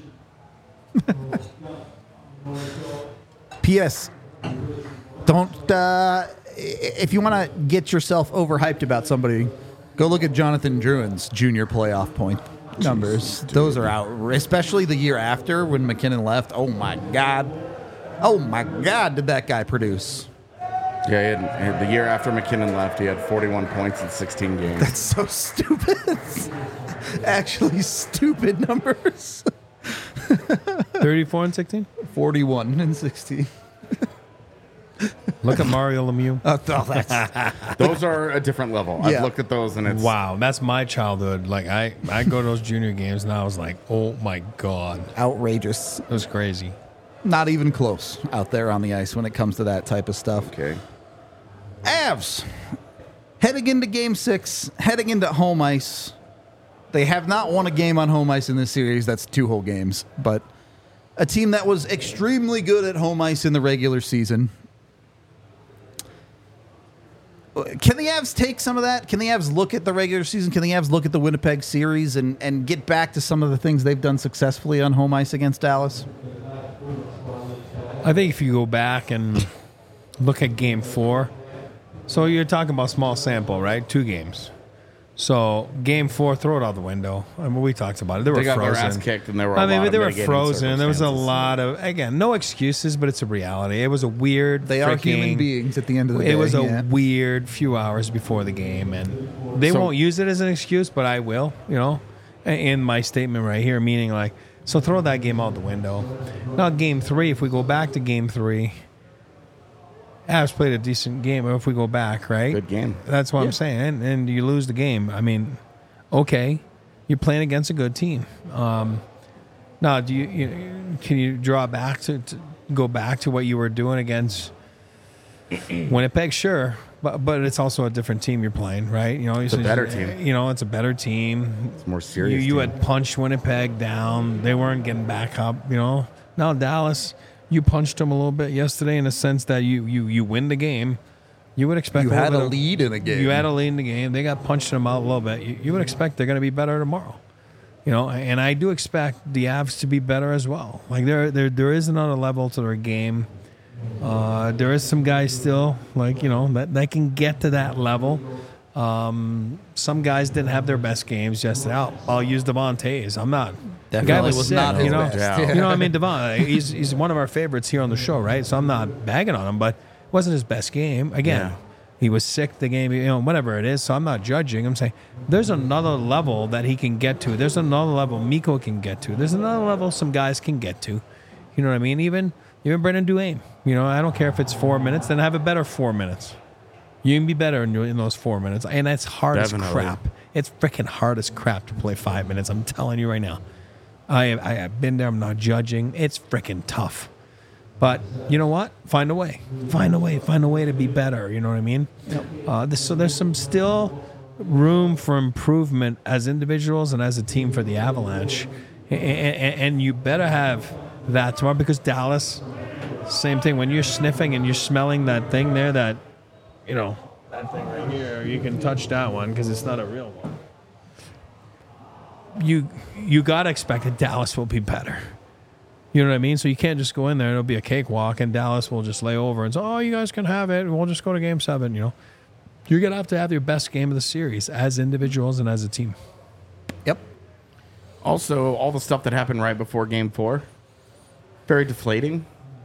P S. Don't, uh, if you want to get yourself overhyped about somebody, go look at Jonathan Druin's junior playoff point numbers. Those are out, especially the year after when McKinnon left. Oh, my God. Oh, my God, did that guy produce. yeah, he had, he had- the year after McKinnon left, he had forty-one points in sixteen games. That's so stupid. Actually, stupid numbers. thirty-four and sixteen? forty-one and sixteen. Look at Mario Lemieux. Oh, that's Those are a different level. Yeah. I've looked at those, and it's Wow, that's my childhood. Like, I, I go to those junior games, and I was like, oh, my God. outrageous. It was crazy. Not even close out there on the ice when it comes to that type of stuff. okay. Avs, heading into game six, heading into home ice. They have not won a game on home ice in this series. That's two whole games. But a team that was extremely good at home ice in the regular season. Can the Avs take some of that? Can the Avs look at the regular season? Can the Avs look at the Winnipeg series and, and get back to some of the things they've done successfully on home ice against Dallas? I think if you go back and look at game four, so you're talking about small sample, right? Two games. So game four, throw it out the window. I mean, we talked about it. They were They got their frozen. ass kicked, and there were a I mean, lot of they were mitigating frozen. There was a circumstances. lot of, again, no excuses, but it's a reality. It was a weird. They are freaking- human beings at the end of the day. It was a yeah. weird few hours before the game, and they So- won't use it as an excuse, but I will, you know, in my statement right here, meaning like, so throw that game out the window. Now, game three, if we go back to game three, Avs played a decent game. If we go back, right? Good game. That's what I'm saying. And, and you lose the game. I mean, okay, you're playing against a good team. Um, now, do you, you can you draw back to, to go back to what you were doing against Winnipeg? Sure, but but it's also a different team you're playing, right? You know, It's a better team. You know, it's a better team. It's more You, serious. you team. had punched Winnipeg down. They weren't getting back up. You know, now Dallas, you punched them a little bit yesterday in the sense that you you you win the game. You would expect You a little had bit a of- lead in a game. You had a lead in the game. They got punched them out a little bit. You, you would expect they're going to be better tomorrow. You know, and I do expect the Avs to be better as well. Like there, there, there is another level to their game. Uh, there is some guys still, like, you know, that, that can get to that level. Um, some guys didn't have their best games yesterday. I'll, I'll use Devon Tays. I'm not. The guy Definitely was, was sick, not his you know. best. Yeah. You know what I mean? Devon, he's he's one of our favorites here on the show, right? So I'm not bagging on him, but it wasn't his best game. Again, Yeah. he was sick the game, you know, whatever it is. So I'm not judging. I'm saying there's another level that he can get to. There's another level Mikko can get to. There's another level some guys can get to. You know what I mean? Even even Brendan Duane. You know, I don't care if it's four minutes, then have a better four minutes. You can be better in, in those four minutes. And it's hard Definitely. as crap. It's freaking hard as crap to play five minutes. I'm telling you right now. I, I have been there. I'm not judging. It's freaking tough. But you know what? Find a way. Find a way. Find a way to be better. You know what I mean? Yep. Uh, this, so there's some still room for improvement as individuals and as a team for the Avalanche. And, and, and you better have that tomorrow because Dallas, same thing. When you're sniffing and you're smelling that thing there, that, you know, that thing right here, you can touch that one because it's not a real one. You you gotta expect that Dallas will be better. You know what I mean? So you can't just go in there and it'll be a cakewalk and Dallas will just lay over and say, oh, you guys can have it. We'll just go to game seven, you know. You're going to have to have your best game of the series as individuals and as a team. Yep. Also, all the stuff that happened right before game four, very deflating.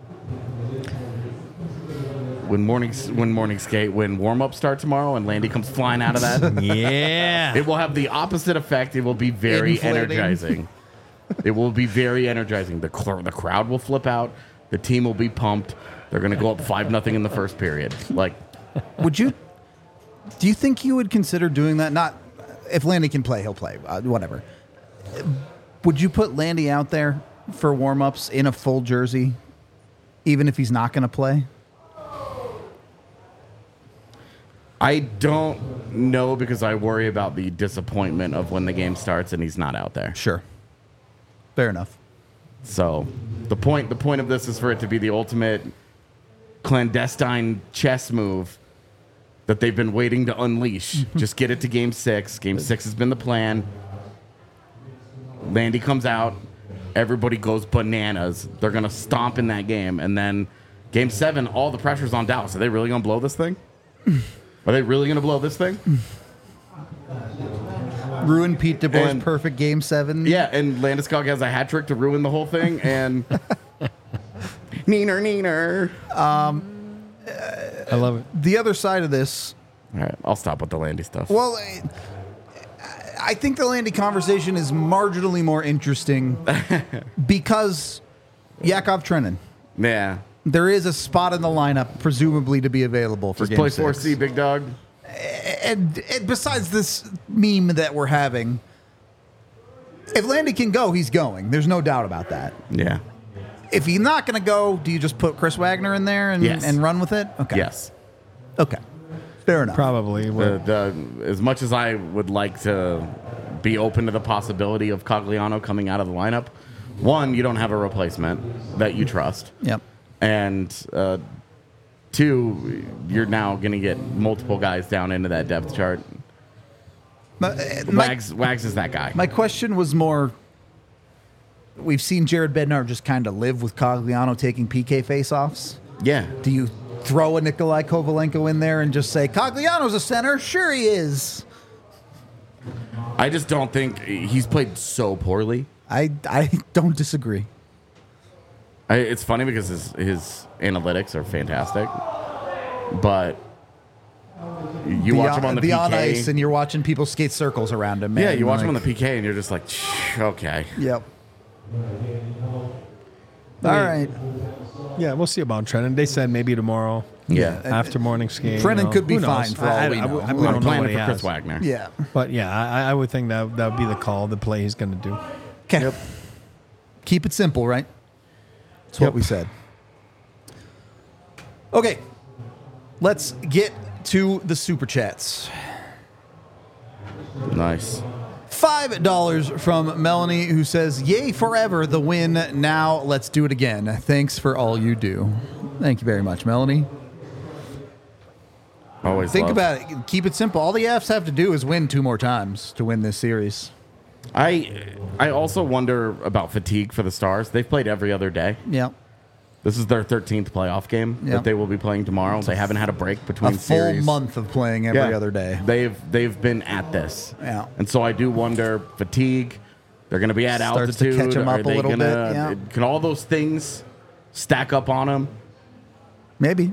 When morning, when morning skate, when warm up start tomorrow, and Landy comes flying out of that, Yeah. it will have the opposite effect. It will be very Inflating. energizing. It will be very energizing. The cl- the crowd will flip out. The team will be pumped. They're going to go up five nothing in the first period. Like, Would you? Do you think you would consider doing that? Not if Landy can play, he'll play. Uh, whatever. Would you put Landy out there for warm-ups in a full jersey, even if he's not going to play? I don't know because I worry about the disappointment of when the game starts and he's not out there. Sure. Fair enough. So the point the point of this is for it to be the ultimate clandestine chess move that they've been waiting to unleash. Just get it to game six. Game six has been the plan. Landy comes out. Everybody goes bananas. They're going to stomp in that game. And then game seven, all the pressure's on Dallas. Are they really going to blow this thing? Are they really going to blow this thing? Ruin Pete DeBoer's And- perfect game seven. Yeah, and Landeskog has a hat trick to ruin the whole thing. And neener, neener. I love it. The other side of this, All right, I'll stop with the Landy stuff. well, eh, I think the Landy conversation is marginally more interesting because Yakov Trenin. Yeah. There is a spot in the lineup, presumably to be available for Just game play six. four C, big dog. And, and besides this meme that we're having, if Landy can go, he's going. There's no doubt about that. Yeah. If he's not going to go, do you just put Chris Wagner in there and, Yes. and run with it? Okay. Yes. Okay. Fair enough. Probably. The, would. the, as much as I would like to be open to the possibility of Cogliano coming out of the lineup, one, you don't have a replacement that you trust. Yep. And uh, two, you're now going to get multiple guys down into that depth chart. My, uh, my, Wags, Wags is that guy. my question was more, we've seen Jared Bednar just kind of live with Cogliano taking P K faceoffs. yeah. Do you throw a Nikolai Kovalenko in there and just say, Cogliano's a center? Sure he is. I just don't think he's played so poorly. I, I don't disagree. I, it's funny because his, his analytics are fantastic, but you The watch on- him on the, the P K. on ice, and you're watching people skate circles around him. Man. yeah, you watch him on Like, the P K, and you're just like, "Shh, okay. Yep. All right. Yeah, we'll see about Trennan. They said maybe tomorrow. Yeah. After morning skate. Trennan you know, could be who knows? fine for all we I, I, know. I, I'm we don't I'm know planning what he for Chris has. Wagner. Yeah. But yeah, I, I would think that that would be the call, the play he's going to do. Okay. Keep it simple, right? That's what Yep. we said. Okay. Let's get to the super chats. Nice. Five dollars from Melanie, who says, "Yay forever, the win. Now let's do it again. Thanks for all you do." Thank you very much, Melanie. Always Think love. about it. Keep it simple. All the Fs have to do is win two more times to win this series. I I also wonder about fatigue for the Stars. They've played every other day. Yeah. This is their thirteenth playoff game Yeah. that they will be playing tomorrow. They haven't had a break between A full series. month of playing every Yeah. other day. They've they've been at this. Yeah. And so I do wonder fatigue. They're going to be at Starts to altitude. catch 'em Are up a they little gonna, bit, yeah. Can all those things stack up on them? Maybe.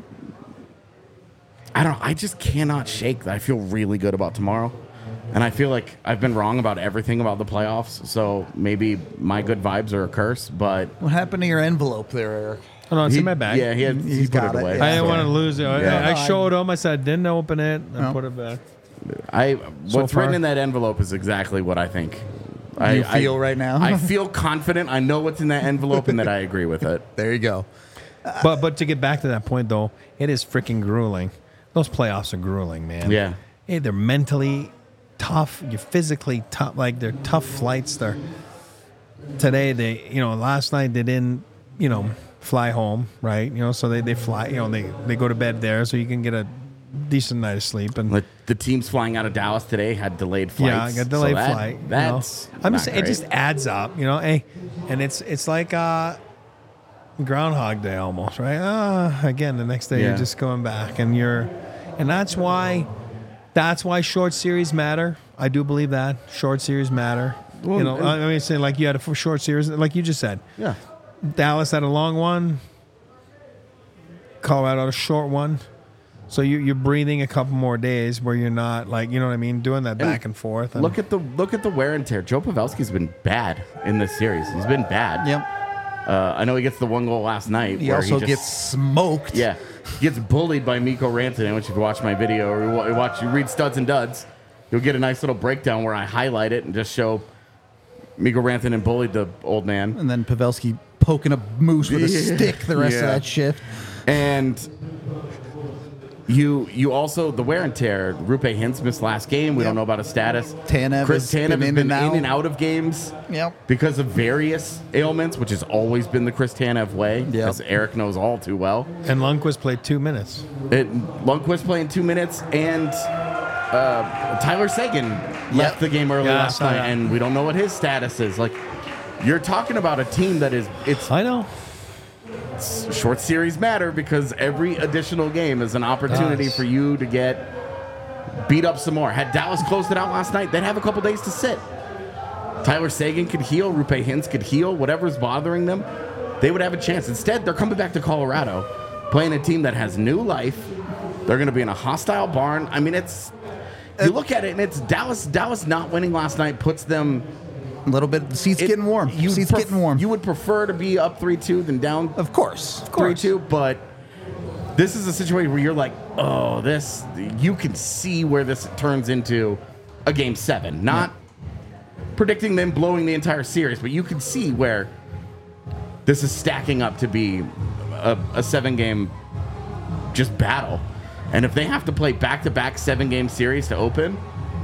I don't know. I just cannot shake that. I feel really good about tomorrow. And I feel like I've been wrong about everything about the playoffs. So maybe my good vibes are a curse, but What happened to your envelope there, Eric? Oh, no, it's he, in my bag. yeah, he had He's he put got it it, away. yeah. I didn't So- want to lose it. I, Yeah. I showed him. I said, I didn't open it. I No. put it back. I So what's far. written in that envelope is exactly what I think. I, You feel I, right now? I feel confident. I know what's in that envelope and that I agree with it. There you go. But but to get back to that point, though, it is freaking grueling. Those playoffs are grueling, man. Yeah. Hey, they're mentally tough. You're physically tough. Like, they're tough flights. They're today. They you know last night they didn't you know fly home, right? You know, so they, they fly. You know, they they go to bed there, so you can get a decent night of sleep. And Like the teams flying out of Dallas today had delayed flights. yeah, I got delayed so that- flight. you know. That's I'm not just saying, it great. just adds up, you know. Hey, and it's it's like uh, Groundhog Day almost, right? Ah, again, the next day Yeah. you're just going back, and you're, and that's why, that's why short series matter. I do believe that short series matter. Well, you know, and- I mean, saying like you had a short series, like you just said. yeah. Dallas had a long one. Colorado had a short one. So you, you're breathing a couple more days where you're not like, you know what I mean, doing that back and forth. And Look at the look at the wear and tear. Joe Pavelski's been bad in this series. He's been bad. Yep. Uh, I know he gets the one goal last night. He where also just- gets smoked. yeah, gets bullied by Mikko Rantanen. Which if you watch my video or you wa- you watch you read Studs and Duds, you'll get a nice little breakdown where I highlight it and just show Mikko Rantanen bullied the old man. And then Pavelski poking a moose with a Yeah. stick the rest Yeah. of that shift. And you you also the wear and tear. Rupe Hintz missed last game. We Yep. don't know about his status. Tanev Chris has Tanev been has in been and out. in and out of games Yep. because of various ailments, which has always been the Chris Tanev way, Yep. as Eric knows all too well. and Lundqvist played two minutes. It, Lundqvist playing two minutes, and uh, Tyler Seguin left the game early Yeah, I last saw night, that. and we don't know what his status is. Like, you're talking about a team that is it's I know. short series matter because every additional game is an opportunity Does. for you to get beat up some more. Had Dallas closed it out last night, they'd have a couple days to sit. Tyler Seguin could heal, Rupe Hintz could heal, whatever's bothering them, they would have a chance. Instead, they're coming back to Colorado, playing a team that has new life. They're going to be in a hostile barn. I mean, it's you look at it and it's Dallas. Dallas not winning last night puts them. A little bit. The seat's it- getting warm. you'd Seat's pref- getting warm. You would prefer to be up three two than down of course. Of three course. two, but this is a situation where you're like, oh, this you can see where this turns into a game seven. Not predicting them blowing the entire series, but you can see where this is stacking up to be a, a seven game just battle. And if they have to play back to back seven game series to open,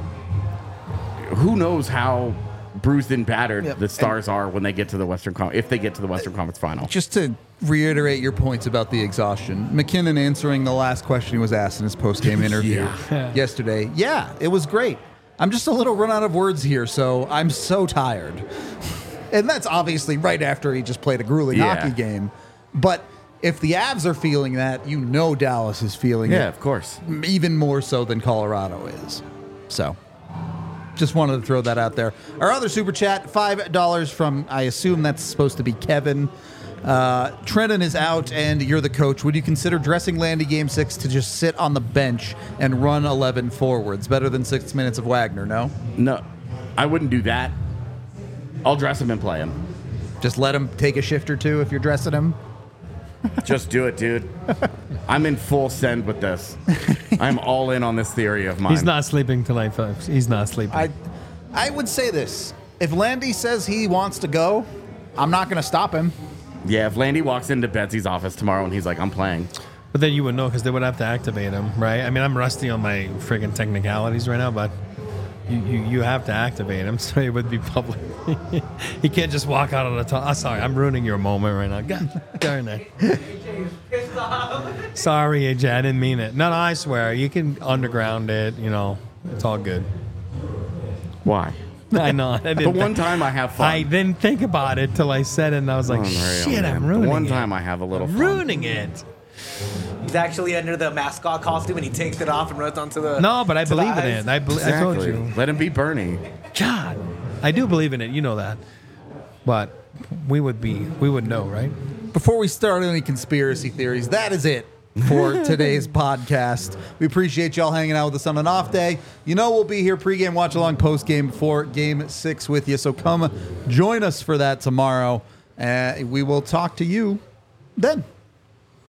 who knows how bruised and battered Yep. the Stars are when they get to the Western Con- if they get to the Western Conference Final. Just to reiterate your points about the exhaustion, McKinnon answering the last question he was asked in his post-game interview Yeah. yesterday. Yeah, it was great. I'm just a little run out of words here, so I'm so tired. And that's obviously right after he just played a grueling Yeah. hockey game. But if the Avs are feeling that, you know Dallas is feeling Yeah, it of course. even more so than Colorado is. So, just wanted to throw that out there. Our other super chat, five dollars from, I assume that's supposed to be Kevin. Uh, Trenton is out, and you're the coach. Would you consider dressing Landy Game six to just sit on the bench and run eleven forwards? Better than six minutes of Wagner, no? No, I wouldn't do that. I'll dress him and play him. Just let him take a shift or two if you're dressing him? Just do it, dude. I'm in full send with this. I'm all in on this theory of mine. He's not sleeping tonight, folks. He's not sleeping. I, I would say this. If Landy says he wants to go, I'm not going to stop him. Yeah, if Landy walks into Betsy's office tomorrow and he's like, I'm playing. But then you would know because they would have to activate him, right? I mean, I'm rusty on my friggin' technicalities right now, but you, you, you have to activate him so it would be public. He can't just walk out on the top. Oh, sorry, I'm ruining your moment right now. God darn it. Sorry, A J, I didn't mean it. No, no, I swear. You can underground it, you know. It's all good. Why? I know. I The didn't one time I have fun. I didn't think about it till I said it, and I was like, Unreal, shit, man. I'm ruining The one it. time I have a little fun. ruining it. He's actually under the mascot costume and he takes it off and runs onto the. No, but I to the believe in ice. it. I, bel I told Exactly. you. Let him be Bernie. God, I do believe in it. You know that. But we would be, we would know, right? Before we start any conspiracy theories, that is it for today's podcast. We appreciate y'all hanging out with us on an off day. You know we'll be here pregame, watch along, postgame for Game Six with you. So come join us for that tomorrow, and we will talk to you then.